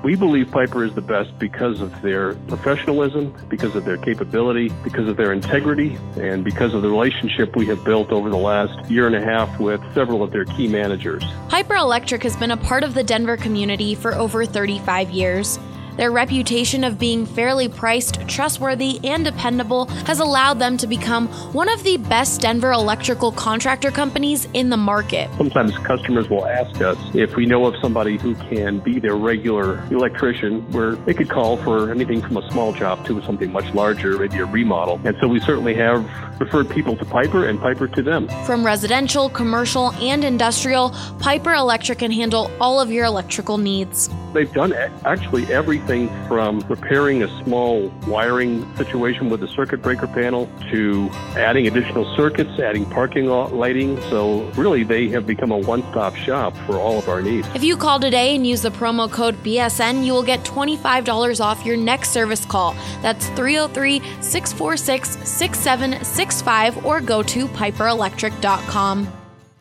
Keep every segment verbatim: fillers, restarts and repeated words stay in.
We believe Piper is the best because of their professionalism, because of their capability, because of their integrity, and because of the relationship we have built over the last year and a half with several of their key managers. Piper Electric has been a part of the Denver community for over thirty-five years. Their reputation of being fairly priced, trustworthy, and dependable has allowed them to become one of the best Denver electrical contractor companies in the market. Sometimes customers will ask us if we know of somebody who can be their regular electrician, where they could call for anything from a small job to something much larger, maybe a remodel. And so we certainly have referred people to Piper and Piper to them. From residential, commercial, and industrial, Piper Electric can handle all of your electrical needs. They've done actually everything from repairing a small wiring situation with a circuit breaker panel to adding additional circuits, adding parking lot lighting. So really, they have become a one-stop shop for all of our needs. If you call today and use the promo code B S N, you will get twenty-five dollars off your next service call. That's three oh three, six four six, six seven six five or go to piper electric dot com.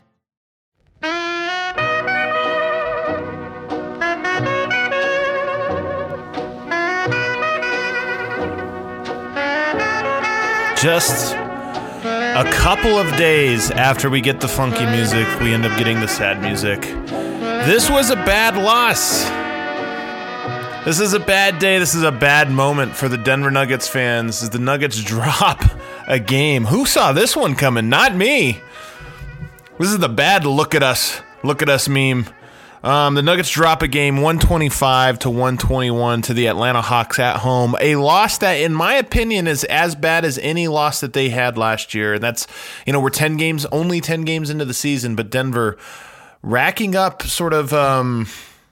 Just a couple of days after we get the funky music, we end up getting the sad music. This was a bad loss. This is a bad day. This is a bad moment for the Denver Nuggets fans as the Nuggets drop a game. Who saw this one coming? Not me. This is the bad look at us, look at us meme. Um, the Nuggets drop a game one twenty-five to one twenty-one to the Atlanta Hawks at home. A loss that, in my opinion, is as bad as any loss that they had last year. And that's, you know, we're ten games, only ten games into the season, but Denver racking up sort of um,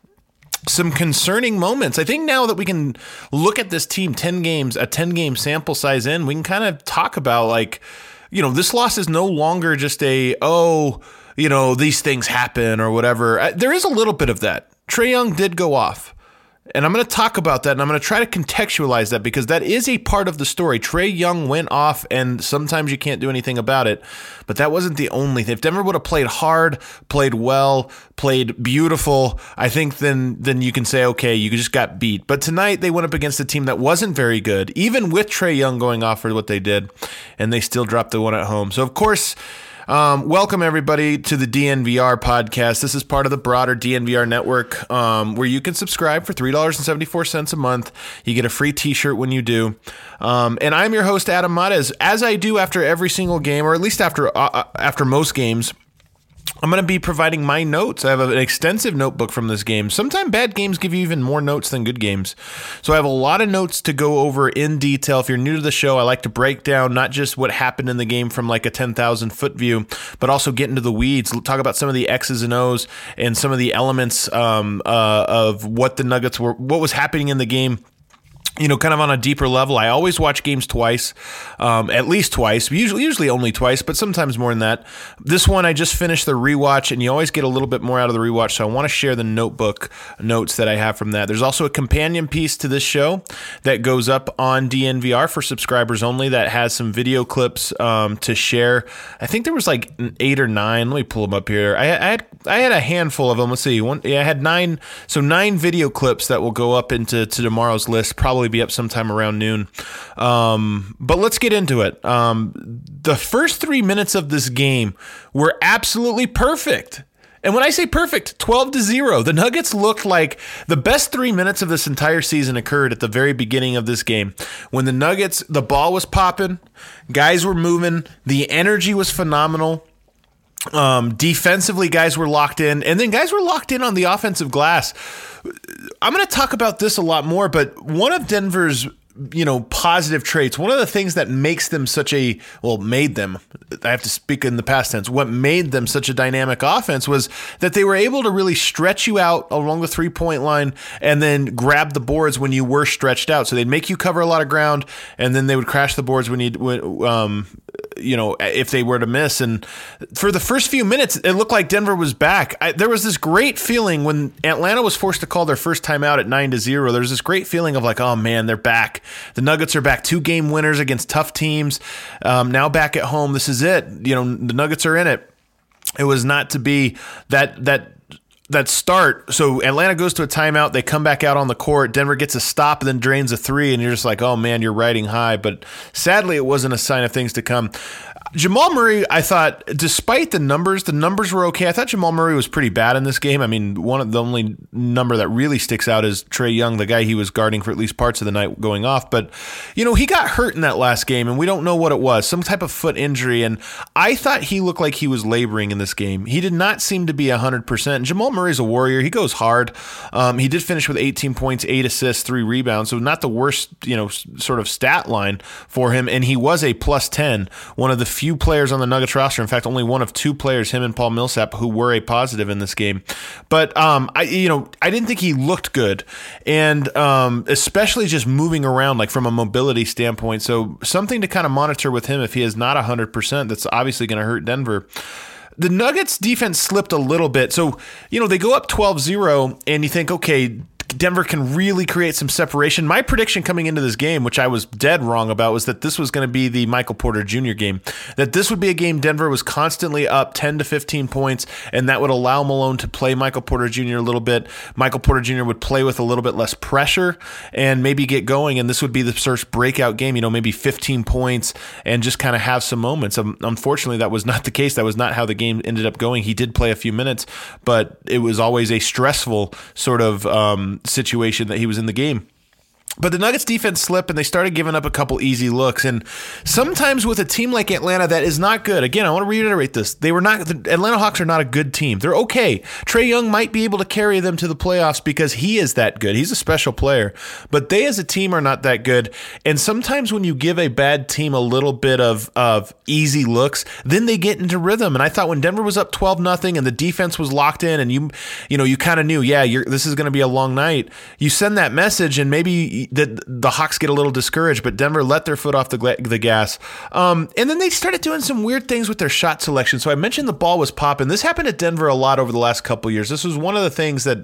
some concerning moments. I think now that we can look at this team ten games, a ten-game sample size in, we can kind of talk about, like, you know, this loss is no longer just a, oh, you know, these things happen or whatever. There is a little bit of that. Trae Young did go off. And I'm going to talk about that, and I'm going to try to contextualize that because that is a part of the story. Trae Young went off, and sometimes you can't do anything about it. But that wasn't the only thing. If Denver would have played hard, played well, played beautiful, I think then then you can say, okay, you just got beat. But tonight they went up against a team that wasn't very good, even with Trae Young going off for what they did, and they still dropped the one at home. So, of course, Um, welcome, everybody, to the D N V R podcast. This is part of the broader D N V R network um, where you can subscribe for three dollars and seventy-four cents a month. You get a free t-shirt when you do. Um, and I'm your host, Adam Mares. As I do after every single game, or at least after uh, after most games, I'm going to be providing my notes. I have an extensive notebook from this game. Sometimes bad games give you even more notes than good games. So I have a lot of notes to go over in detail. If you're new to the show, I like to break down not just what happened in the game from like a ten thousand foot view, but also get into the weeds, talk about some of the X's and O's and some of the elements um, uh, of what the Nuggets were, what was happening in the game. You know, kind of on a deeper level. I always watch games twice, um, at least twice, usually usually only twice, but sometimes more than that. This one, I just finished the rewatch, and you always get a little bit more out of the rewatch, so I want to share the notebook notes that I have from that. There's also a companion piece to this show that goes up on D N V R for subscribers only that has some video clips um, to share. I think there was like eight or nine. Let me pull them up here. I, I had I had a handful of them. Let's see. One, yeah, I had nine. So nine video clips that will go up into to tomorrow's list, probably be up sometime around noon. Um, but let's get into it. Um, the first three minutes of this game were absolutely perfect. And when I say perfect, twelve to zero. The Nuggets looked like the best three minutes of this entire season occurred at the very beginning of this game. When the Nuggets, the ball was popping, guys were moving, the energy was phenomenal. Um, defensively, guys were locked in, and then guys were locked in on the offensive glass. I'm going to talk about this a lot more, but one of Denver's, you know, positive traits, one of the things that makes them such a, well, made them, I have to speak in the past tense, what made them such a dynamic offense was that they were able to really stretch you out along the three-point line and then grab the boards when you were stretched out. So they'd make you cover a lot of ground, and then they would crash the boards when you, um, you know, if they were to miss. And for the first few minutes, it looked like Denver was back. I, there was this great feeling when Atlanta was forced to call their first timeout at nine to zero. There was this great feeling of like, oh man, they're back. The Nuggets are back, two game winners against tough teams. Um, now back at home, this is it. You know, the Nuggets are in it. It was not to be. That that that start, so Atlanta goes to a timeout, they come back out on the court, Denver gets a stop and then drains a three, and you're just like, oh man, you're riding high. But sadly, it wasn't a sign of things to come. Jamal Murray, I thought, despite the numbers, the numbers were okay. I thought Jamal Murray was pretty bad in this game. I mean, one of the only number that really sticks out is Trae Young, the guy he was guarding for at least parts of the night, going off. But, you know, he got hurt in that last game, and we don't know what it was, some type of foot injury. And I thought he looked like he was laboring in this game. He did not seem to be one hundred percent. Jamal Murray's a warrior. He goes hard. Um, he did finish with eighteen points, eight assists, three rebounds. So not the worst, you know, sort of stat line for him. And he was a plus ten, one of the few players on the Nuggets roster. In fact, only one of two players, him and Paul Millsap, who were a positive in this game. But um, I, you know, I didn't think he looked good, and um, especially just moving around, like from a mobility standpoint. So something to kind of monitor with him if he is not one hundred percent. That's obviously going to hurt Denver. The Nuggets defense slipped a little bit. So, you know, they go up twelve zero, and you think, okay, Denver can really create some separation. My prediction coming into this game, which I was dead wrong about, was that this was going to be the Michael Porter Junior game, that this would be a game Denver was constantly up ten to fifteen points, and that would allow Malone to play Michael Porter Junior a little bit. Michael Porter Junior would play with a little bit less pressure and maybe get going, and this would be the first breakout game, you know, maybe fifteen points and just kind of have some moments. Um, unfortunately, that was not the case. That was not how the game ended up going. He did play a few minutes, but it was always a stressful sort of um, situation that he was in the game. But the Nuggets defense slipped, and they started giving up a couple easy looks. And sometimes with a team like Atlanta that is not good, again, I want to reiterate this, they were not, the Atlanta Hawks are not a good team. They're okay. Trae Young might be able to carry them to the playoffs because he is that good. He's a special player. But they as a team are not that good. And sometimes when you give a bad team a little bit of, of easy looks, then they get into rhythm. And I thought when Denver was up twelve nothing and the defense was locked in, and you you know, you kind of knew, yeah, you're, this is going to be a long night, you send that message, and maybe the, the Hawks get a little discouraged, but Denver let their foot off the, the gas. Um, and then they started doing some weird things with their shot selection. So I mentioned the ball was popping. This happened at Denver a lot over the last couple of years. This was one of the things that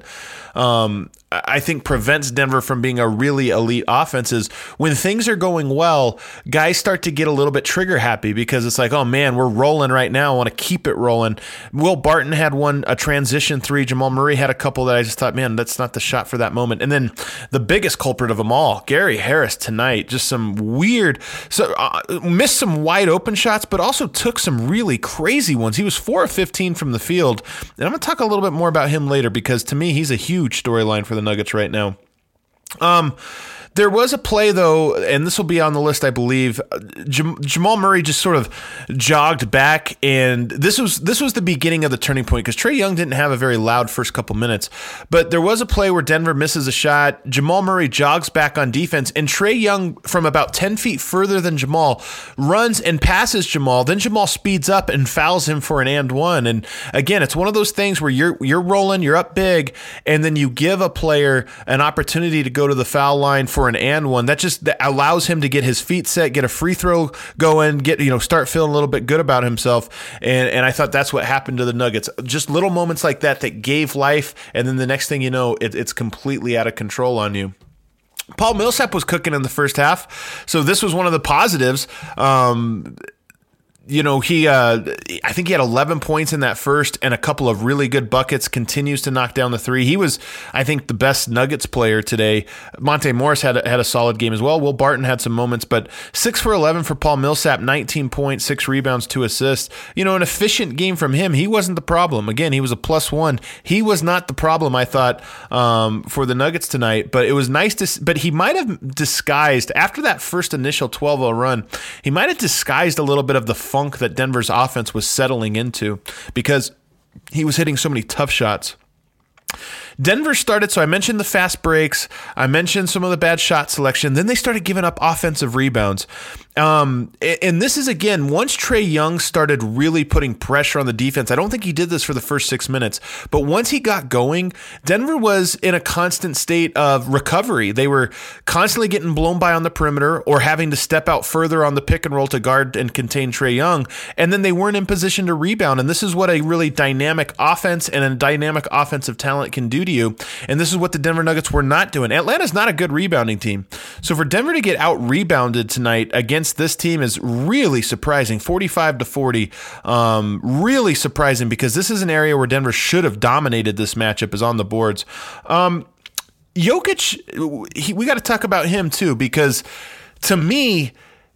um, I think prevents Denver from being a really elite offense is when things are going well, guys start to get a little bit trigger happy because it's like, oh man, we're rolling right now. I want to keep it rolling. Will Barton had one, a transition three. Jamal Murray had a couple that I just thought, man, that's not the shot for that moment. And then the biggest culprit of them all, Gary Harris tonight, just some weird, so uh, missed some wide open shots, but also took some really crazy ones. He was four of fifteen from the field. And I'm going to talk a little bit more about him later because to me, he's a huge storyline for the Nuggets right now. Um, There was a play, though, and this will be on the list, I believe. Jam- Jamal Murray just sort of jogged back, and this was this was the beginning of the turning point because Trae Young didn't have a very loud first couple minutes. But there was a play where Denver misses a shot. Jamal Murray jogs back on defense, and Trae Young, from about ten feet further than Jamal, runs and passes Jamal. Then Jamal speeds up and fouls him for an and one. And again, it's one of those things where you're you're rolling, you're up big, and then you give a player an opportunity to go to the foul line for an and one. That just that allows him to get his feet set, get a free throw going, get you know start feeling a little bit good about himself. And and I thought that's what happened to the Nuggets. Just little moments like that that gave life, and then the next thing you know, it, it's completely out of control on you. Paul Millsap was cooking in the first half, so this was one of the positives. Um, You know, he, uh, I think he had eleven points in that first and a couple of really good buckets, continues to knock down the three. He was, I think, the best Nuggets player today. Monte Morris had a, had a solid game as well. Will Barton had some moments, but six for eleven for Paul Millsap, nineteen points, six rebounds, two assists. You know, an efficient game from him. He wasn't the problem. Again, he was a plus one. He was not the problem, I thought, um, for the Nuggets tonight, but it was nice to, but he might have disguised, after that first initial twelve oh run, he might have disguised a little bit of the funk that Denver's offense was settling into because he was hitting so many tough shots. Denver started, so I mentioned the fast breaks, I mentioned some of the bad shot selection, then they started giving up offensive rebounds. Um, and this is, again, once Trae Young started really putting pressure on the defense, I don't think he did this for the first six minutes, but once he got going, Denver was in a constant state of recovery. They were constantly getting blown by on the perimeter or having to step out further on the pick and roll to guard and contain Trae Young, and then they weren't in position to rebound. And this is what a really dynamic offense and a dynamic offensive talent can do do to you. And this is what the Denver Nuggets were not doing. Atlanta's not a good rebounding team. So for Denver to get out-rebounded tonight against this team is really surprising. forty-five to forty. Um, really surprising because this is an area where Denver should have dominated this matchup is on the boards. Um, Jokic, he, we got to talk about him too, because to me,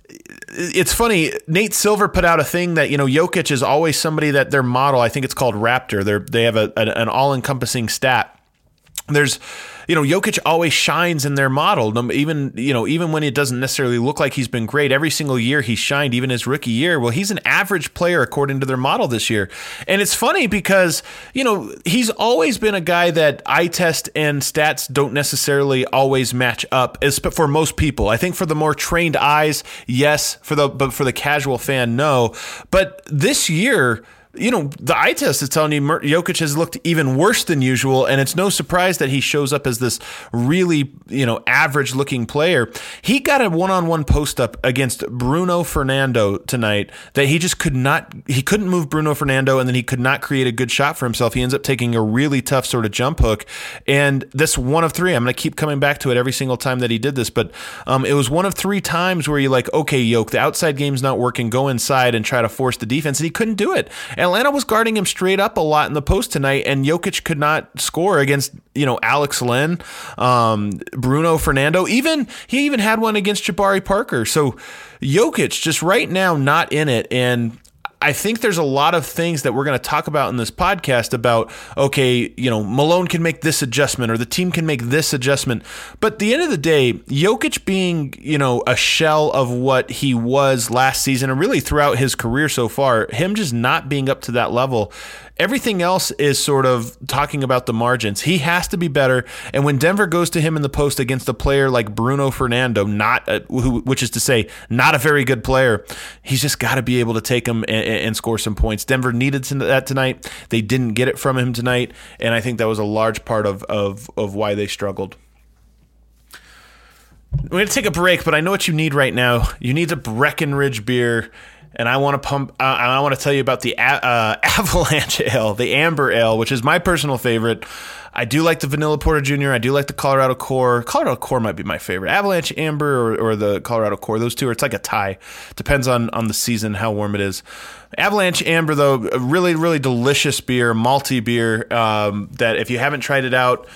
it's funny. Nate Silver put out a thing that, you know, Jokic is always somebody that their model, I think it's called Raptor. They're, they have a, an, an all-encompassing stat. There's, you know, Jokic always shines in their model, even, you know, even when it doesn't necessarily look like he's been great. Every single year he shined, even his rookie year. Well, he's an average player according to their model this year. And it's funny because, you know, he's always been a guy that eye test and stats don't necessarily always match up, as for most people. I think for the more trained eyes, yes, for the but for the casual fan, no. But this year, you know, the eye test is telling you Jokic has looked even worse than usual, and it's no surprise that he shows up as this really, you know, average-looking player. He got a one-on-one post-up against Bruno Fernando tonight that he just could not, he couldn't move Bruno Fernando, and then he could not create a good shot for himself. He ends up taking a really tough sort of jump hook, and this one of three, I'm going to keep coming back to it every single time that he did this, but um, it was one of three times where you're like, okay, Jokic, the outside game's not working, go inside and try to force the defense, and he couldn't do it. Atlanta was guarding him straight up a lot in the post tonight, and Jokic could not score against, you know, Alex Len, um, Bruno Fernando. Even he even had one against Jabari Parker. So Jokic just right now not in it, and I think there's a lot of things that we're going to talk about in this podcast about, okay, you know, Malone can make this adjustment or the team can make this adjustment. But at the end of the day, Jokic being, you know, a shell of what he was last season and really throughout his career so far, him just not being up to that level, everything else is sort of talking about the margins. He has to be better. And when Denver goes to him in the post against a player like Bruno Fernando, not a, who, which is to say, not a very good player, he's just got to be able to take him and, and score some points. Denver needed that tonight. They didn't get it from him tonight. And I think that was a large part of, of, of why they struggled. We're going to take a break, but I know what you need right now. You need a Breckenridge beer. And I want to pump. Uh, I want to tell you about the uh, Avalanche Ale, the Amber Ale, which is my personal favorite. I do like the Vanilla Porter Junior I do like the Colorado Core. Colorado Core might be my favorite. Avalanche Amber or, or the Colorado Core. Those two are. It's like a tie. Depends on on the season, how warm it is. Avalanche Amber, though, a really really delicious beer, malty beer. Um, that if you haven't tried it out,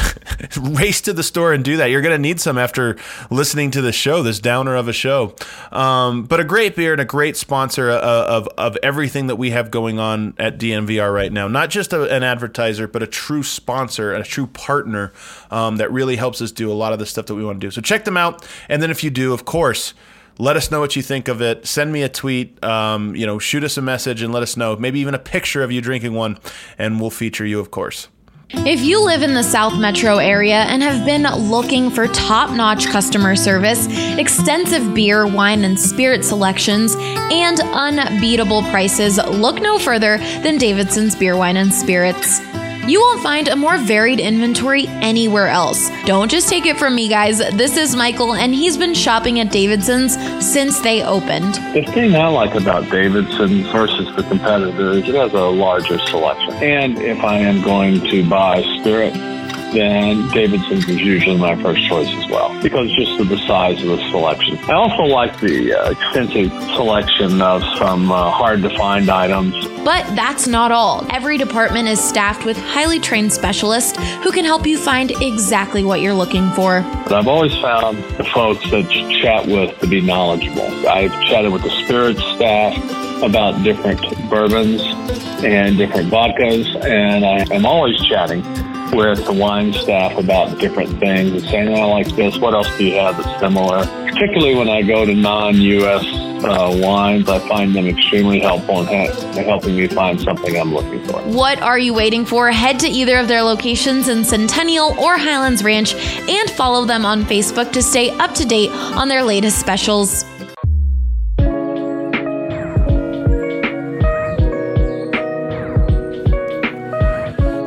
race to the store and do that. You're going to need some after listening to the show, this downer of a show. Um, but a great beer and a great sponsor of, of, of everything that we have going on at D N V R right now. Not just a, an advertiser, but a true sponsor and a true partner um, that really helps us do a lot of the stuff that we want to do. So check them out. And then if you do, of course, let us know what you think of it. Send me a tweet, um, you know, shoot us a message and let us know. Maybe even a picture of you drinking one, and we'll feature you, of course. If you live in the South Metro area and have been looking for top-notch customer service, extensive beer, wine, and spirit selections, and unbeatable prices, look no further than Davidson's Beer, Wine, and Spirits. You won't find a more varied inventory anywhere else. Don't just take it from me, guys. This is Michael, and he's been shopping at Davidson's since they opened. The thing I like about Davidson versus the competitor is it has a larger selection. And if I am going to buy spirit, then Davidson's is usually my first choice as well, because just of the size of the selection. I also like the uh, extensive selection of some uh, hard-to-find items. But that's not all. Every department is staffed with highly trained specialists who can help you find exactly what you're looking for. But I've always found the folks that you chat with to be knowledgeable. I've chatted with the spirits staff about different bourbons and different vodkas, and I am always chatting with the wine staff about different things and saying, I like this, what else do you have that's similar? Particularly when I go to non-U S uh, wines, I find them extremely helpful in ha- helping me find something I'm looking for. What are you waiting for? Head to either of their locations in Centennial or Highlands Ranch and follow them on Facebook to stay up to date on their latest specials.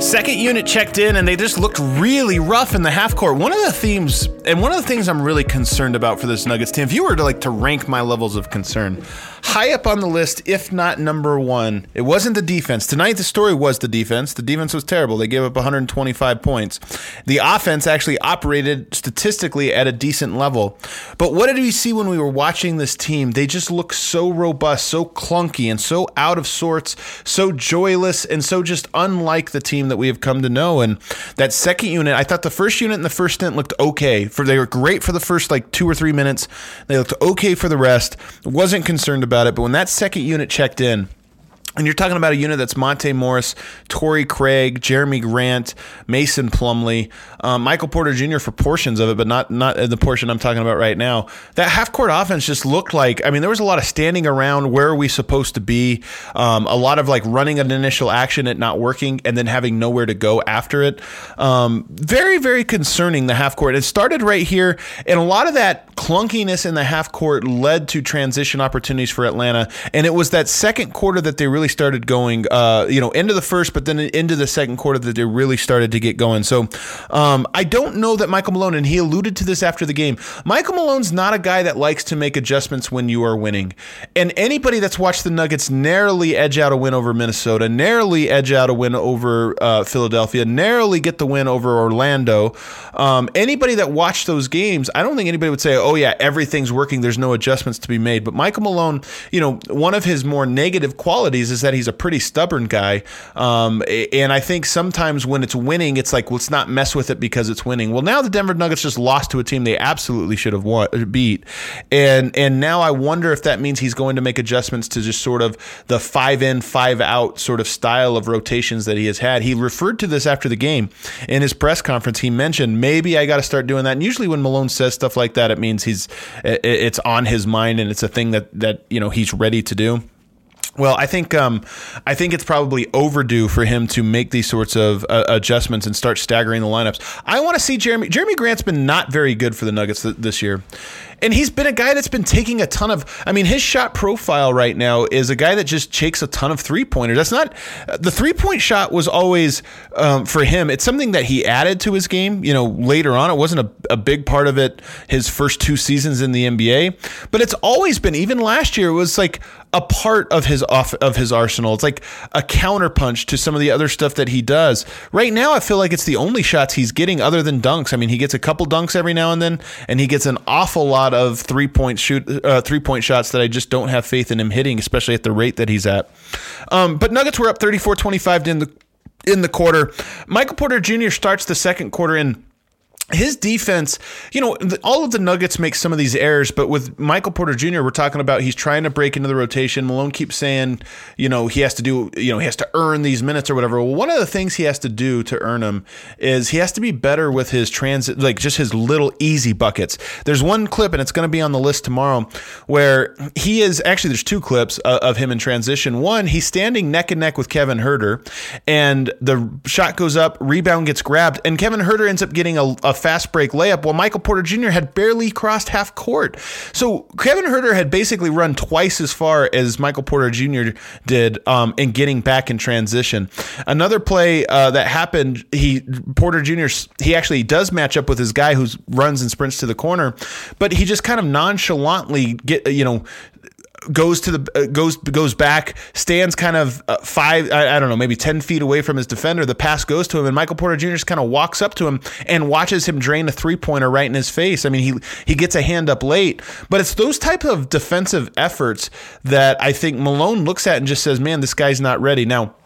Second unit checked in, and they just looked really rough in the half court. One of the themes, and one of the things I'm really concerned about for this Nuggets team, if you were to like to rank my levels of concern, high up on the list, if not number one, it wasn't the defense. Tonight, the story was the defense. The defense was terrible. They gave up one hundred twenty-five points. The offense actually operated statistically at a decent level. But what did we see when we were watching this team? They just look so robust, so clunky, and so out of sorts, so joyless, and so just unlike the team that we have come to know. And that second unit, I thought the first unit and the first stint looked okay. For they were great for the first like two or three minutes. They looked okay for the rest. Wasn't concerned about it. But when that second unit checked in, and you're talking about a unit that's Monte Morris, Torrey Craig, Jeremy Grant, Mason Plumlee, um, Michael Porter Junior for portions of it, but not not the portion I'm talking about right now. That half-court offense just looked like, I mean, there was a lot of standing around, where are we supposed to be, um, a lot of like running an initial action, it not working, and then having nowhere to go after it. Um, very, very concerning, the half-court. It started right here, and a lot of that clunkiness in the half-court led to transition opportunities for Atlanta, and it was that second quarter that they really started going, uh, you know, into the first, but then into the second quarter that they really started to get going. So um, I don't know that Michael Malone, and he alluded to this after the game, Michael Malone's not a guy that likes to make adjustments when you are winning. And anybody that's watched the Nuggets narrowly edge out a win over Minnesota, narrowly edge out a win over uh, Philadelphia, narrowly get the win over Orlando, um, anybody that watched those games, I don't think anybody would say, oh yeah, everything's working, there's no adjustments to be made. But Michael Malone, you know, one of his more negative qualities is is that he's a pretty stubborn guy. Um, and I think sometimes when it's winning, it's like, let's not mess with it because it's winning. Well, now the Denver Nuggets just lost to a team they absolutely should have won, beat. And and now I wonder if that means he's going to make adjustments to just sort of the five in, five out sort of style of rotations that he has had. He referred to this after the game in his press conference. He mentioned, maybe I got to start doing that. And usually when Malone says stuff like that, it means he's it's on his mind and it's a thing that that you know he's ready to do. Well, I think um, I think it's probably overdue for him to make these sorts of uh, adjustments and start staggering the lineups. I want to see Jeremy. Jeremy Grant's been not very good for the Nuggets th- this year. And he's been a guy that's been taking a ton of, I mean, his shot profile right now is a guy that just takes a ton of three-pointers. That's not, the three-point shot was always, um, for him, it's something that he added to his game, you know, later on. It wasn't a, a big part of it his first two seasons in the N B A. But it's always been, even last year, it was like a part of his off of his arsenal. It's like a counterpunch to some of the other stuff that he does. Right now, I feel like it's the only shots he's getting other than dunks. I mean, he gets a couple dunks every now and then, and he gets an awful lot of three-point shoot, uh, three-point shots that I just don't have faith in him hitting, especially at the rate that he's at. Um, but Nuggets were up thirty-four twenty-five in the in the quarter. Michael Porter Junior starts the second quarter in. His defense, you know, all of the Nuggets make some of these errors, but with Michael Porter Junior, we're talking about he's trying to break into the rotation. Malone keeps saying, you know, he has to do, you know, he has to earn these minutes or whatever. Well, one of the things he has to do to earn them is he has to be better with his transit, like just his little easy buckets. There's one clip, and it's going to be on the list tomorrow, where he is, actually there's two clips uh, of him in transition. One, he's standing neck and neck with Kevin Huerter, and the shot goes up, rebound gets grabbed, and Kevin Huerter ends up getting a, a fast break layup while Michael Porter Junior had barely crossed half court. So Kevin Huerter had basically run twice as far as Michael Porter Junior did um, in getting back in transition. Another play uh, that happened, he Porter Junior, he actually does match up with his guy who runs and sprints to the corner, but he just kind of nonchalantly get, you know, goes to the uh, goes goes back, stands kind of uh, five, I, I don't know, maybe ten feet away from his defender. The pass goes to him, and Michael Porter Junior just kind of walks up to him and watches him drain a three-pointer right in his face. I mean, he he gets a hand up late, but it's those type of defensive efforts that I think Malone looks at and just says, man, this guy's not ready. Now,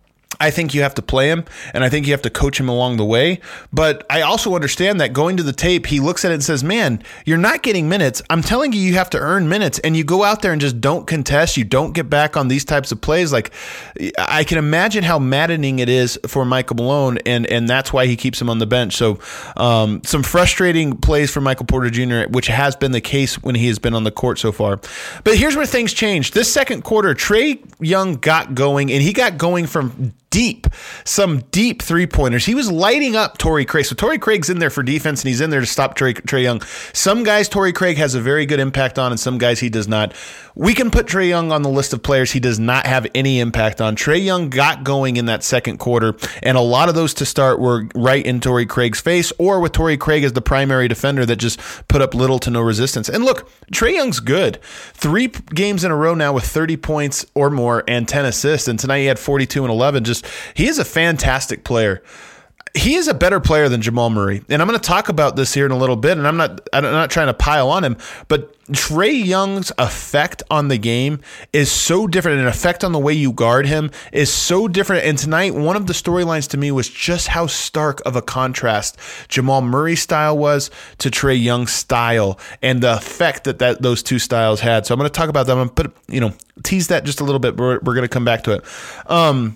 I think you have to play him, and I think you have to coach him along the way. But I also understand that going to the tape, he looks at it and says, man, you're not getting minutes. I'm telling you, you have to earn minutes, and you go out there and just don't contest. You don't get back on these types of plays. Like, I can imagine how maddening it is for Michael Malone, and, and that's why he keeps him on the bench. So um, some frustrating plays for Michael Porter Junior, which has been the case when he has been on the court so far. But here's where things changed. This second quarter, Trae Young got going, and he got going from deep, some deep three-pointers. He was lighting up Torrey Craig. So Torrey Craig's in there for defense, and he's in there to stop Trae, Trae Young. Some guys Torrey Craig has a very good impact on, and some guys he does not. We can put Trae Young on the list of players he does not have any impact on. Trae Young got going in that second quarter, and a lot of those to start were right in Torrey Craig's face, or with Torrey Craig as the primary defender that just put up little to no resistance. And look, Trae Young's good. Three games in a row now with thirty points or more and ten assists, and tonight he had forty-two and eleven. Just he is a fantastic player. He is a better player than Jamal Murray. And I'm going to talk about this here in a little bit, and I'm not I'm not trying to pile on him, but Trae Young's effect on the game is so different. An effect on the way you guard him is so different. And tonight, one of the storylines to me was just how stark of a contrast Jamal Murray's style was to Trae Young's style and the effect that, that those two styles had. So I'm going to talk about that. I'm going to put, you know, tease that just a little bit. We're, we're going to come back to it. Um,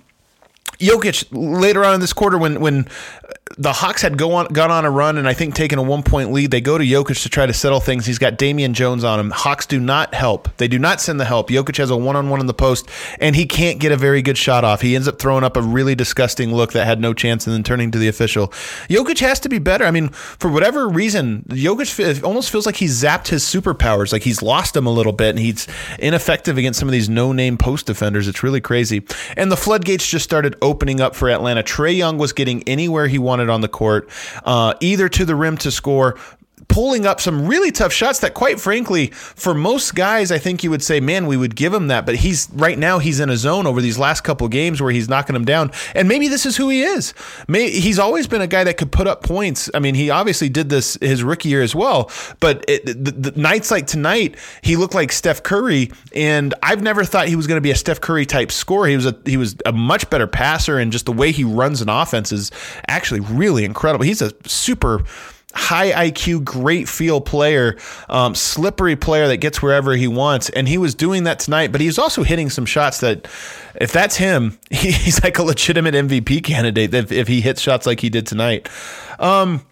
Jokic later on in this quarter, when when the Hawks had go on gone on a run and I think taken a one point lead, they go to Jokic to try to settle things. He's got Damian Jones on him. Hawks do not help. They do not send the help. Jokic has a one on one in the post, and he can't get a very good shot off. He ends up throwing up a really disgusting look that had no chance, and then turning to the official. Jokic has to be better. I mean, for whatever reason, Jokic almost feels like he's zapped his superpowers. Like he's lost them a little bit, and he's ineffective against some of these no name post defenders. It's really crazy. And the floodgates just started opening up for Atlanta. Trae Young was getting anywhere he wanted on the court, uh, either to the rim to score, pulling up some really tough shots that, quite frankly, for most guys, I think you would say, man, we would give him that. But he's right now he's in a zone over these last couple games where he's knocking them down. And maybe this is who he is. Maybe, he's always been a guy that could put up points. I mean, he obviously did this his rookie year as well. But it, the, the nights like tonight, he looked like Steph Curry. And I've never thought he was going to be a Steph Curry type scorer. He was a he was a much better passer, and just the way he runs an offense is actually really incredible. He's a super high I Q, great feel player, um, slippery player that gets wherever he wants. And he was doing that tonight, but he's also hitting some shots that, if that's him, he's like a legitimate M V P candidate if, if he hits shots like he did tonight. Um,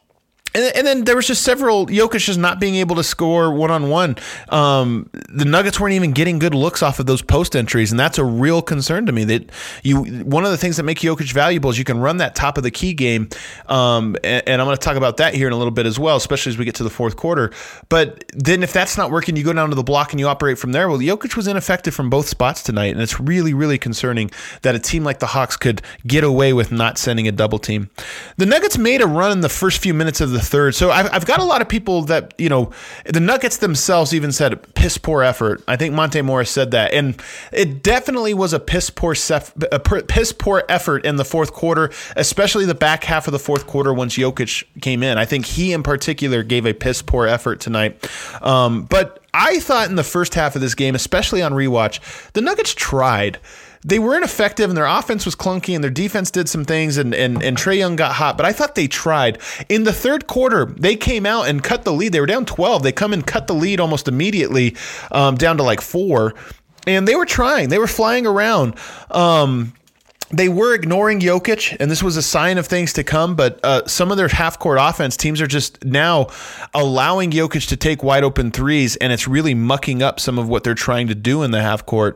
And, and then there was just several, Jokic just not being able to score one-on-one. Um, the Nuggets weren't even getting good looks off of those post entries, and that's a real concern to me. That you, one of the things that make Jokic valuable is you can run that top of the key game, um, and, and I'm going to talk about that here in a little bit as well, especially as we get to the fourth quarter. But then if that's not working, you go down to the block and you operate from there. Well, Jokic was ineffective from both spots tonight, and it's really, really concerning that a team like the Hawks could get away with not sending a double team. The Nuggets made a run in the first few minutes of the third. So I've, I've got a lot of people that, you know, the Nuggets themselves even said piss poor effort. I think Monte Morris said that. And it definitely was a piss poor, sef, a piss poor effort in the fourth quarter, especially the back half of the fourth quarter once Jokic came in. I think he in particular gave a piss poor effort tonight. Um, but I thought in the first half of this game, especially on rewatch, the Nuggets tried. They weren't effective, and their offense was clunky, and their defense did some things, and, and, and Trae Young got hot. But I thought they tried. In the third quarter, they came out and cut the lead. They were down twelve. They come and cut the lead almost immediately, um, down to like four. And they were trying. They were flying around. Um, They were ignoring Jokic, and this was a sign of things to come, but uh, some of their half-court offense, teams are just now allowing Jokic to take wide-open threes, and it's really mucking up some of what they're trying to do in the half-court.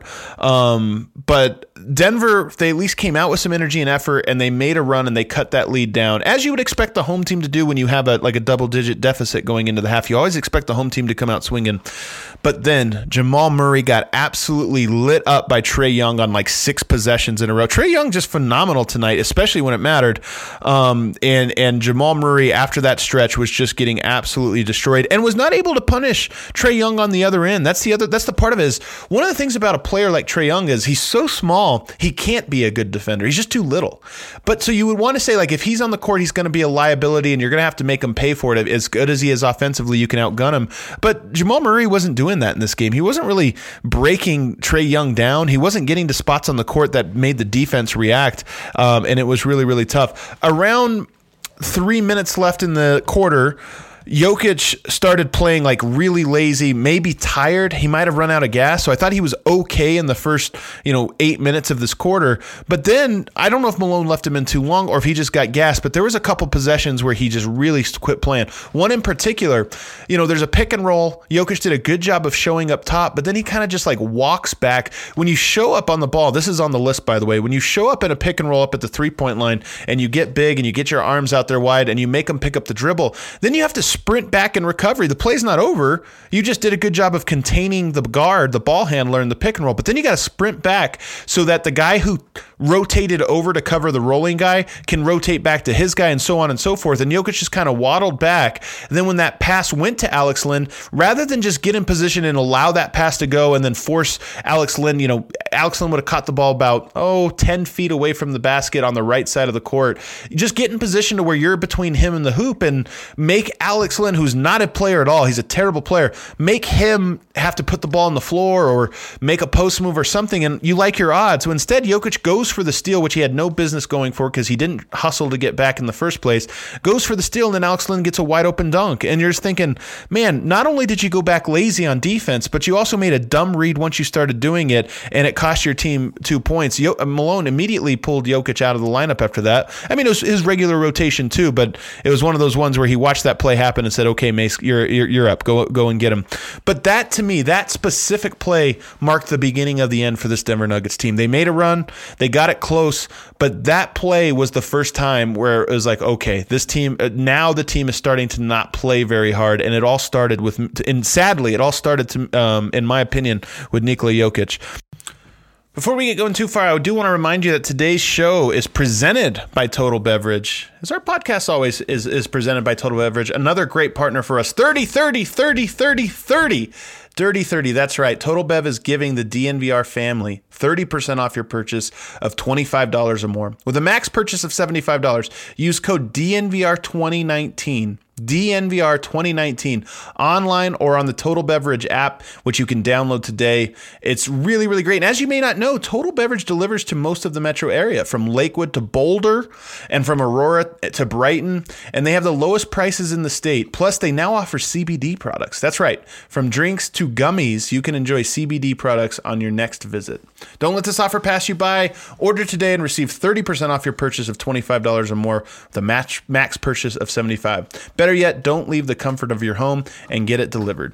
Um, but Denver, they at least came out with some energy and effort, and they made a run, and they cut that lead down, as you would expect the home team to do when you have a like a double-digit deficit going into the half. You always expect the home team to come out swinging. But then Jamal Murray got absolutely lit up by Trae Young on like six possessions in a row. Trae Young just phenomenal tonight, especially when it mattered. Um, and and Jamal Murray, after that stretch, was just getting absolutely destroyed and was not able to punish Trae Young on the other end. That's the other. That's the part of it. Is one of the things about a player like Trae Young is he's so small, he can't be a good defender. He's just too little. But so you would want to say, like, if he's on the court, he's going to be a liability, and you're going to have to make him pay for it. As good as he is offensively, you can outgun him. But Jamal Murray wasn't doing that in this game. He wasn't really breaking Trae Young down. He wasn't getting to spots on the court that made the defense react, um, and it was really, really tough. Around three minutes left in the quarter, Jokic started playing like really lazy, maybe tired. He might have run out of gas. So I thought he was okay in the first, you know, eight minutes of this quarter. But then I don't know if Malone left him in too long or if he just got gas, but there was a couple possessions where he just really quit playing. One in particular, you know, there's a pick and roll. Jokic did a good job of showing up top, but then he kind of just like walks back. When you show up on the ball, this is on the list, by the way, when you show up in a pick and roll up at the three-point line and you get big and you get your arms out there wide and you make them pick up the dribble, then you have to sprint back in recovery. The play's not over. You just did a good job of containing the guard, the ball handler, in the pick and roll, but then you got to sprint back so that the guy who rotated over to cover the rolling guy can rotate back to his guy and so on and so forth. And Jokic just kind of waddled back. And then when that pass went to Alex Len, rather than just get in position and allow that pass to go and then force Alex Len, you know, Alex Len would have caught the ball about, oh, ten feet away from the basket on the right side of the court. Just get in position to where you're between him and the hoop and make Alex Len, who's not a player at all, he's a terrible player, make him have to put the ball on the floor or make a post move or something, and you like your odds. So instead, Jokic goes for the steal, which he had no business going for because he didn't hustle to get back in the first place, goes for the steal, and then Alex Len gets a wide open dunk. And you're just thinking, man, not only did you go back lazy on defense, but you also made a dumb read once you started doing it, and it cost your team two points. Yo- Malone immediately pulled Jokic out of the lineup after that. I mean, it was his regular rotation too, but it was one of those ones where he watched that play happen and said, okay, Mace, you're, you're, you're up. Go, go and get him. But that, to me, that specific play marked the beginning of the end for this Denver Nuggets team. They made a run. They got it close, but that play was the first time where it was like, okay, this team, now the team is starting to not play very hard, and it all started with, and sadly, it all started, to, um, in my opinion, with Nikola Jokic. Before we get going too far, I do want to remind you that today's show is presented by Total Beverage. As our podcast always is, is presented by Total Beverage, another great partner for us. thirty, thirty, thirty, thirty, thirty. Dirty thirty, that's right. Total Bev is giving the D N V R family thirty percent off your purchase of twenty-five dollars or more. With a max purchase of seventy-five dollars, use code D N V R twenty nineteen. D N V R twenty nineteen online or on the Total Beverage app, which you can download today. It's really, really great. And as you may not know, Total Beverage delivers to most of the metro area, from Lakewood to Boulder and from Aurora to Brighton. And they have the lowest prices in the state. Plus, they now offer C B D products. That's right. From drinks to gummies, you can enjoy C B D products on your next visit. Don't let this offer pass you by. Order today and receive thirty percent off your purchase of twenty-five dollars or more with a match, max purchase of seventy-five dollars. Better yet, don't leave the comfort of your home and get it delivered.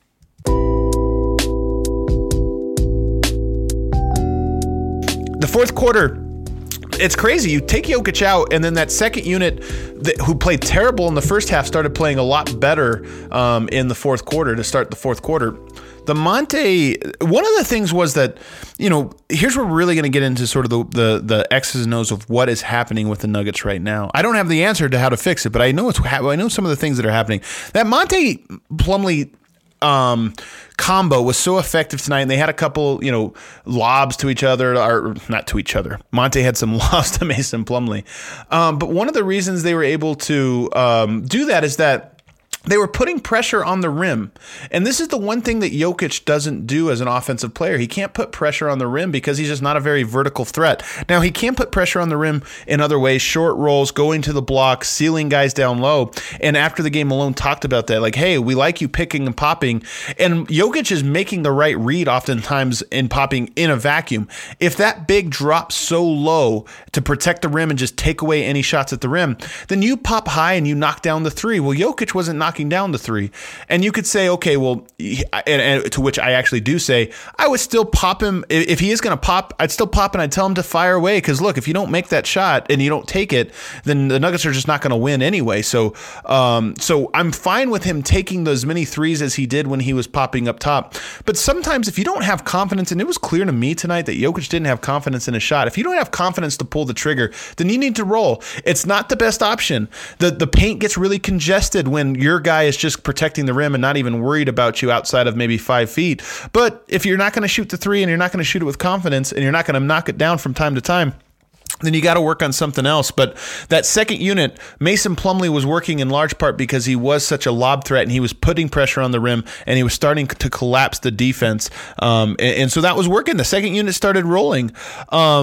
The fourth quarter, it's crazy. You take Jokic out, and then that second unit that, who played terrible in the first half started playing a lot better um, in the fourth quarter to start the fourth quarter. The Monte, one of the things was that, you know, here's where we're really going to get into sort of the, the the X's and O's of what is happening with the Nuggets right now. I don't have the answer to how to fix it, but I know it's I know some of the things that are happening. That Monte Plumlee um, combo was so effective tonight, and they had a couple, you know, lobs to each other, or not to each other. Monte had some lobs to Mason Plumlee. Um, but one of the reasons they were able to um, do that is that they were putting pressure on the rim. And this is the one thing that Jokic doesn't do as an offensive player. He can't put pressure on the rim because he's just not a very vertical threat. Now, he can put pressure on the rim in other ways, short rolls, going to the block, sealing guys down low. And after the game, Malone talked about that. Like, hey, we like you picking and popping. And Jokic is making the right read oftentimes in popping in a vacuum. If that big drops so low to protect the rim and just take away any shots at the rim, then you pop high and you knock down the three. Well, Jokic wasn't knocking down the three. And you could say, okay, well, and, and to which I actually do say, I would still pop him. If he is going to pop, I'd still pop and I'd tell him to fire away. Because look, if you don't make that shot and you don't take it, then the Nuggets are just not going to win anyway. So, um, so I'm fine with him taking those many threes as he did when he was popping up top. But sometimes if you don't have confidence, and it was clear to me tonight that Jokic didn't have confidence in his shot. If you don't have confidence to pull the trigger, then you need to roll. It's not the best option. The, the paint gets really congested when you're guy is just protecting the rim and not even worried about you outside of maybe five feet. But if you're not going to shoot the three and you're not going to shoot it with confidence and you're not going to knock it down from time to time, then you got to work on something else. But that second unit, Mason Plumlee was working in large part because he was such a lob threat and he was putting pressure on the rim and he was starting to collapse the defense. Um, and, and so that was working. The second unit started rolling. Um,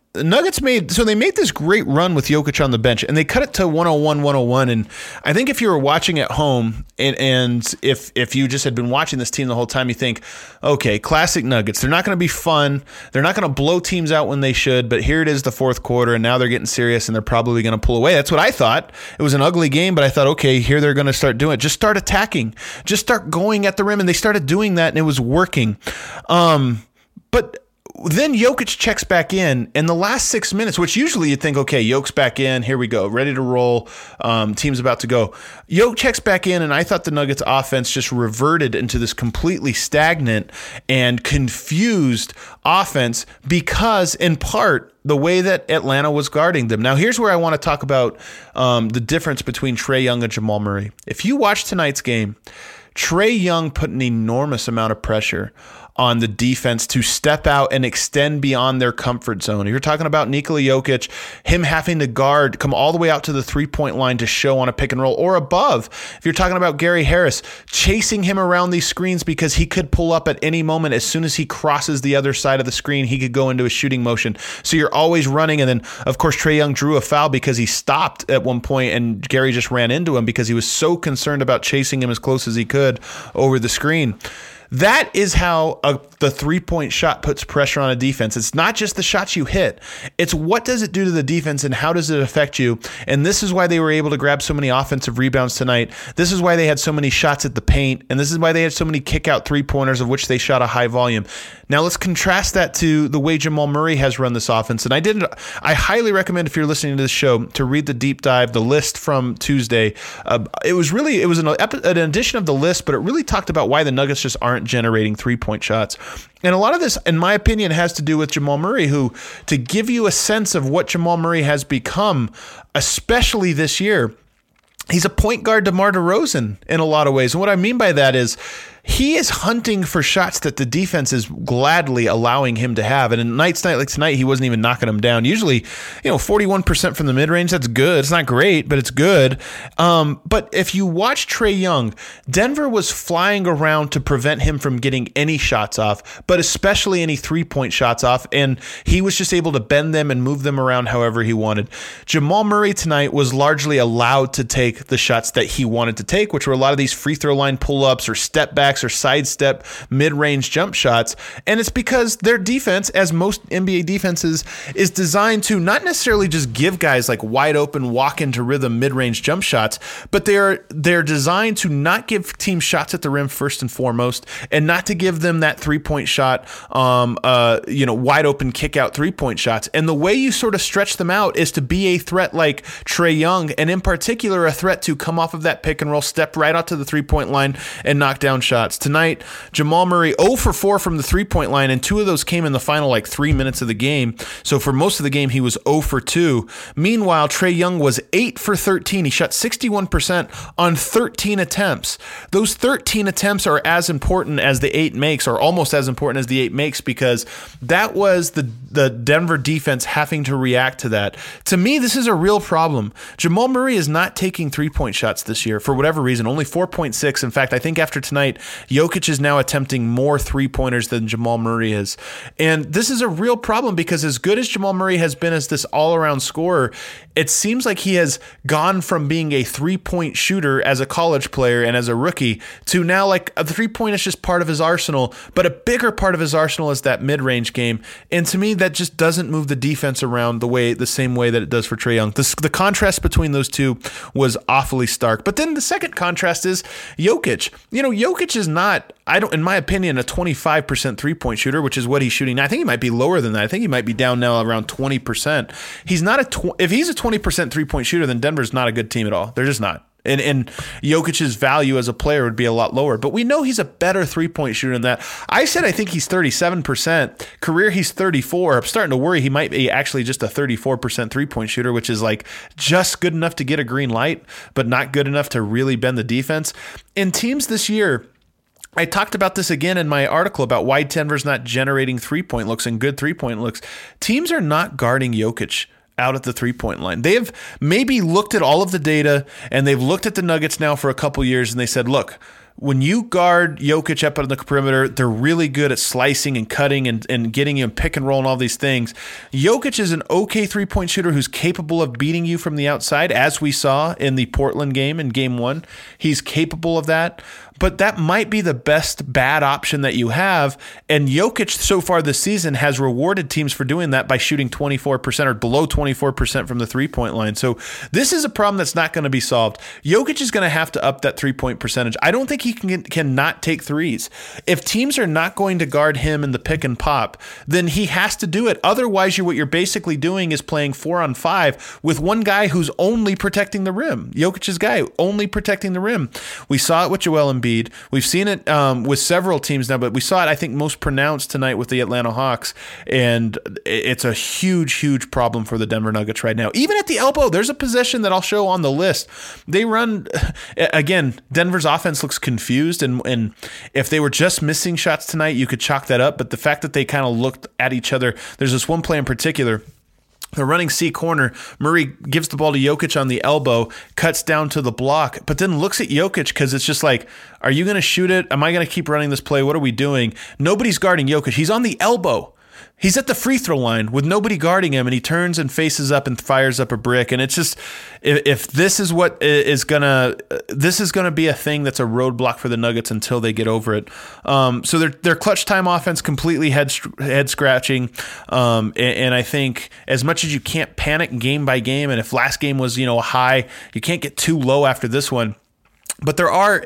the Nuggets made, so they made this great run with Jokic on the bench, and they cut it to one oh one, one oh one. And I think if you were watching at home, and, and if if you just had been watching this team the whole time, you think, okay, classic Nuggets. They're not going to be fun. They're not going to blow teams out when they should, but here it is, the fourth quarter, and now they're getting serious, and they're probably going to pull away. That's what I thought. It was an ugly game, but I thought, okay, here they're going to start doing it. Just start attacking. Just start going at the rim, and they started doing that, and it was working. Um, but then Jokic checks back in, and the last six minutes, which usually you'd think, okay, Jokic's back in, here we go, ready to roll, um, team's about to go. Jokic checks back in, and I thought the Nuggets offense just reverted into this completely stagnant and confused offense because, in part, the way that Atlanta was guarding them. Now, here's where I want to talk about um, the difference between Trae Young and Jamal Murray. If you watch tonight's game, Trae Young put an enormous amount of pressure on the defense to step out and extend beyond their comfort zone. If you're talking about Nikola Jokic, him having to guard, come all the way out to the three-point line to show on a pick and roll or above. If you're talking about Gary Harris, chasing him around these screens because he could pull up at any moment. As soon as he crosses the other side of the screen, he could go into a shooting motion. So you're always running. And then, of course, Trae Young drew a foul because he stopped at one point and Gary just ran into him because he was so concerned about chasing him as close as he could over the screen. That is how a, the three-point shot puts pressure on a defense. It's not just the shots you hit. It's what does it do to the defense and how does it affect you? And this is why they were able to grab so many offensive rebounds tonight. This is why they had so many shots at the paint. And this is why they had so many kick-out three-pointers, of which they shot a high volume. Now let's contrast that to the way Jamal Murray has run this offense. And I did. I highly recommend, if you're listening to this show, to read the deep dive, the list from Tuesday. Uh, it was really, it was an, an edition of the list, but it really talked about why the Nuggets just aren't generating three-point shots. And a lot of this, in my opinion, has to do with Jamal Murray, who, to give you a sense of what Jamal Murray has become, especially this year, he's a point guard DeMar DeRozan in a lot of ways. And what I mean by that is he is hunting for shots that the defense is gladly allowing him to have. And in nights night like tonight, he wasn't even knocking them down. Usually, you know, forty-one percent from the mid-range, that's good. It's not great, but it's good. Um, but if you watch Trae Young, Denver was flying around to prevent him from getting any shots off, but especially any three-point shots off. And he was just able to bend them and move them around however he wanted. Jamal Murray tonight was largely allowed to take the shots that he wanted to take, which were a lot of these free throw line pull-ups or step backs or sidestep mid-range jump shots. And it's because their defense, as most N B A defenses, is designed to not necessarily just give guys like wide open walk into rhythm mid-range jump shots, but they're they're designed to not give teams shots at the rim first and foremost, and not to give them that three-point shot, um, uh, you know, wide open kick out three-point shots. And the way you sort of stretch them out is to be a threat like Trae Young, and in particular a threat to come off of that pick and roll, step right out to the three-point line and knock down shots. Tonight, Jamal Murray zero for four from the three-point line, and two of those came in the final like three minutes of the game. So for most of the game, he was zero for two. Meanwhile, Trae Young was eight for thirteen. He shot sixty-one percent on thirteen attempts. Those thirteen attempts are as important as the eight makes, or almost as important as the eight makes, because that was the, the Denver defense having to react to that. To me, this is a real problem. Jamal Murray is not taking three-point shots this year for whatever reason, only four point six. In fact, I think after tonight, Jokic is now attempting more three-pointers than Jamal Murray is. And this is a real problem because as good as Jamal Murray has been as this all-around scorer, it seems like he has gone from being a three-point shooter as a college player and as a rookie to now like a three-point is just part of his arsenal, but a bigger part of his arsenal is that mid-range game. And to me, that just doesn't move the defense around the way, the same way that it does for Trae Young. The, the contrast between those two was awfully stark. But then the second contrast is Jokic. You know, Jokic is not, I don't, in my opinion, a twenty-five percent three-point shooter, which is what he's shooting now. I think he might be lower than that. I think he might be down now around twenty percent. He's not a, tw- if he's a twenty percent three-point shooter, then Denver's not a good team at all. They're just not. And, and Jokic's value as a player would be a lot lower. But we know he's a better three-point shooter than that. I said I think he's thirty-seven percent. Career, he's thirty-four. I'm starting to worry he might be actually just a thirty-four percent three-point shooter, which is like just good enough to get a green light, but not good enough to really bend the defense. And teams this year, I talked about this again in my article about why Denver's not generating three-point looks and good three-point looks. Teams are not guarding Jokic out at the three-point line. They have maybe looked at all of the data, and they've looked at the Nuggets now for a couple years, and they said, look, when you guard Jokic up on the perimeter, they're really good at slicing and cutting and, and getting you in pick and roll and all these things. Jokic is an okay three-point shooter who's capable of beating you from the outside, as we saw in the Portland game in game one. He's capable of that. But that might be the best bad option that you have. And Jokic so far this season has rewarded teams for doing that by shooting twenty-four percent or below twenty-four percent from the three-point line. So this is a problem that's not going to be solved. Jokic is going to have to up that three-point percentage. I don't think he can cannot take threes. If teams are not going to guard him in the pick and pop, then he has to do it. Otherwise, you're, what you're basically doing is playing four on five with one guy who's only protecting the rim. Jokic's guy, only protecting the rim. We saw it with Joel Embiid. We've seen it um, with several teams now, but we saw it, I think, most pronounced tonight with the Atlanta Hawks, and it's a huge, huge problem for the Denver Nuggets right now. Even at the elbow, there's a possession that I'll show on the list. They run, again, Denver's offense looks confused, and, and if they were just missing shots tonight, you could chalk that up, but the fact that they kind of looked at each other, there's this one play in particular. They're running C corner. Murray gives the ball to Jokic on the elbow, cuts down to the block, but then looks at Jokic because it's just like, are you going to shoot it? Am I going to keep running this play? What are we doing? Nobody's guarding Jokic. He's on the elbow. He's at the free throw line with nobody guarding him, and he turns and faces up and fires up a brick. And it's just, if, if this is what is gonna, this is gonna be a thing that's a roadblock for the Nuggets until they get over it. Um, so their their clutch time offense completely head head scratching. Um, and, and I think as much as you can't panic game by game, and if last game was you know a high, you can't get too low after this one. But there are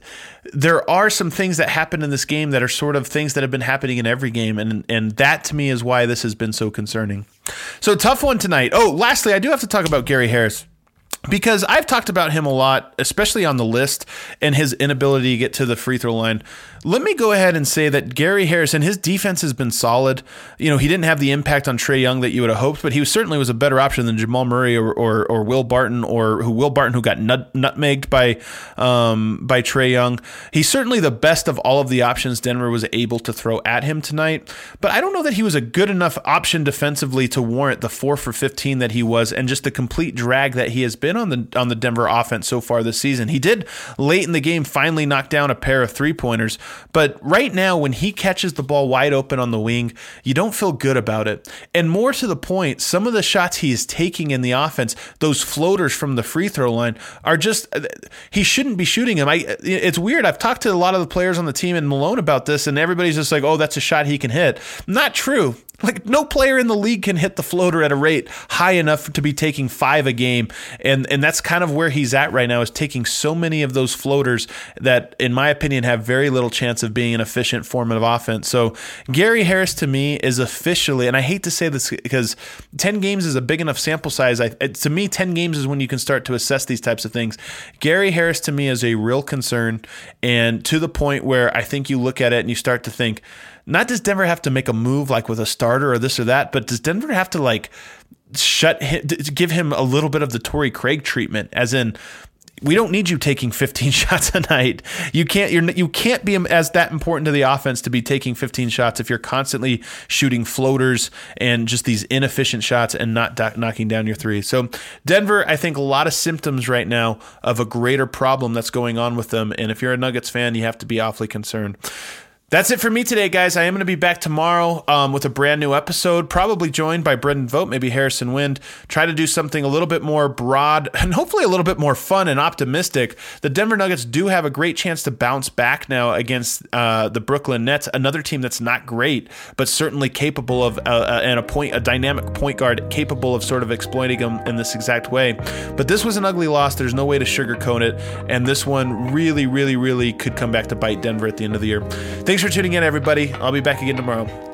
there are some things that happen in this game that are sort of things that have been happening in every game, and and that to me is why this has been so concerning. So tough one tonight. Oh, lastly, I do have to talk about Gary Harris, because I've talked about him a lot, especially on the list, and his inability to get to the free throw line. Let me go ahead and say that Gary Harris and his defense has been solid. You know, he didn't have the impact on Trae Young that you would have hoped, but he was, certainly was a better option than Jamal Murray or or, or Will Barton or who Will Barton who got nut, nutmegged by um, by Trae Young. He's certainly the best of all of the options Denver was able to throw at him tonight, but I don't know that he was a good enough option defensively to warrant the four for fifteen that he was, and just the complete drag that he has been on the on the Denver offense so far this season. He did late in the game finally knock down a pair of three pointers. But right now, when he catches the ball wide open on the wing, you don't feel good about it. And more to the point, some of the shots he is taking in the offense, those floaters from the free throw line, are just, he shouldn't be shooting them. I, it's weird. I've talked to a lot of the players on the team and Malone about this, and everybody's just like, oh, that's a shot he can hit. Not true. Like, no player in the league can hit the floater at a rate high enough to be taking five a game. And and that's kind of where he's at right now, is taking so many of those floaters that, in my opinion, have very little chance of being an efficient form of offense. So Gary Harris, to me, is officially, and I hate to say this because ten games is a big enough sample size. I, to me, ten games is when you can start to assess these types of things. Gary Harris, to me, is a real concern, and to the point where I think you look at it and you start to think, not does Denver have to make a move like with a starter or this or that, but does Denver have to like shut him, give him a little bit of the Torrey Craig treatment, as in, we don't need you taking fifteen shots a night. You can't you're you can't be as that important to the offense to be taking fifteen shots if you're constantly shooting floaters and just these inefficient shots and not do- knocking down your threes. So Denver, I think a lot of symptoms right now of a greater problem that's going on with them, and if you're a Nuggets fan, you have to be awfully concerned. That's it for me today, guys. I am going to be back tomorrow um, with a brand new episode, probably joined by Brendan Vogt, maybe Harrison Wind. Try to do something a little bit more broad and hopefully a little bit more fun and optimistic. The Denver Nuggets do have a great chance to bounce back now against uh, the Brooklyn Nets, another team that's not great, but certainly capable of, uh, uh, and a point, a dynamic point guard capable of sort of exploiting them in this exact way. But this was an ugly loss. There's no way to sugarcoat it, and this one really, really, really could come back to bite Denver at the end of the year. Thanks for tuning in, everybody. I'll be back again tomorrow.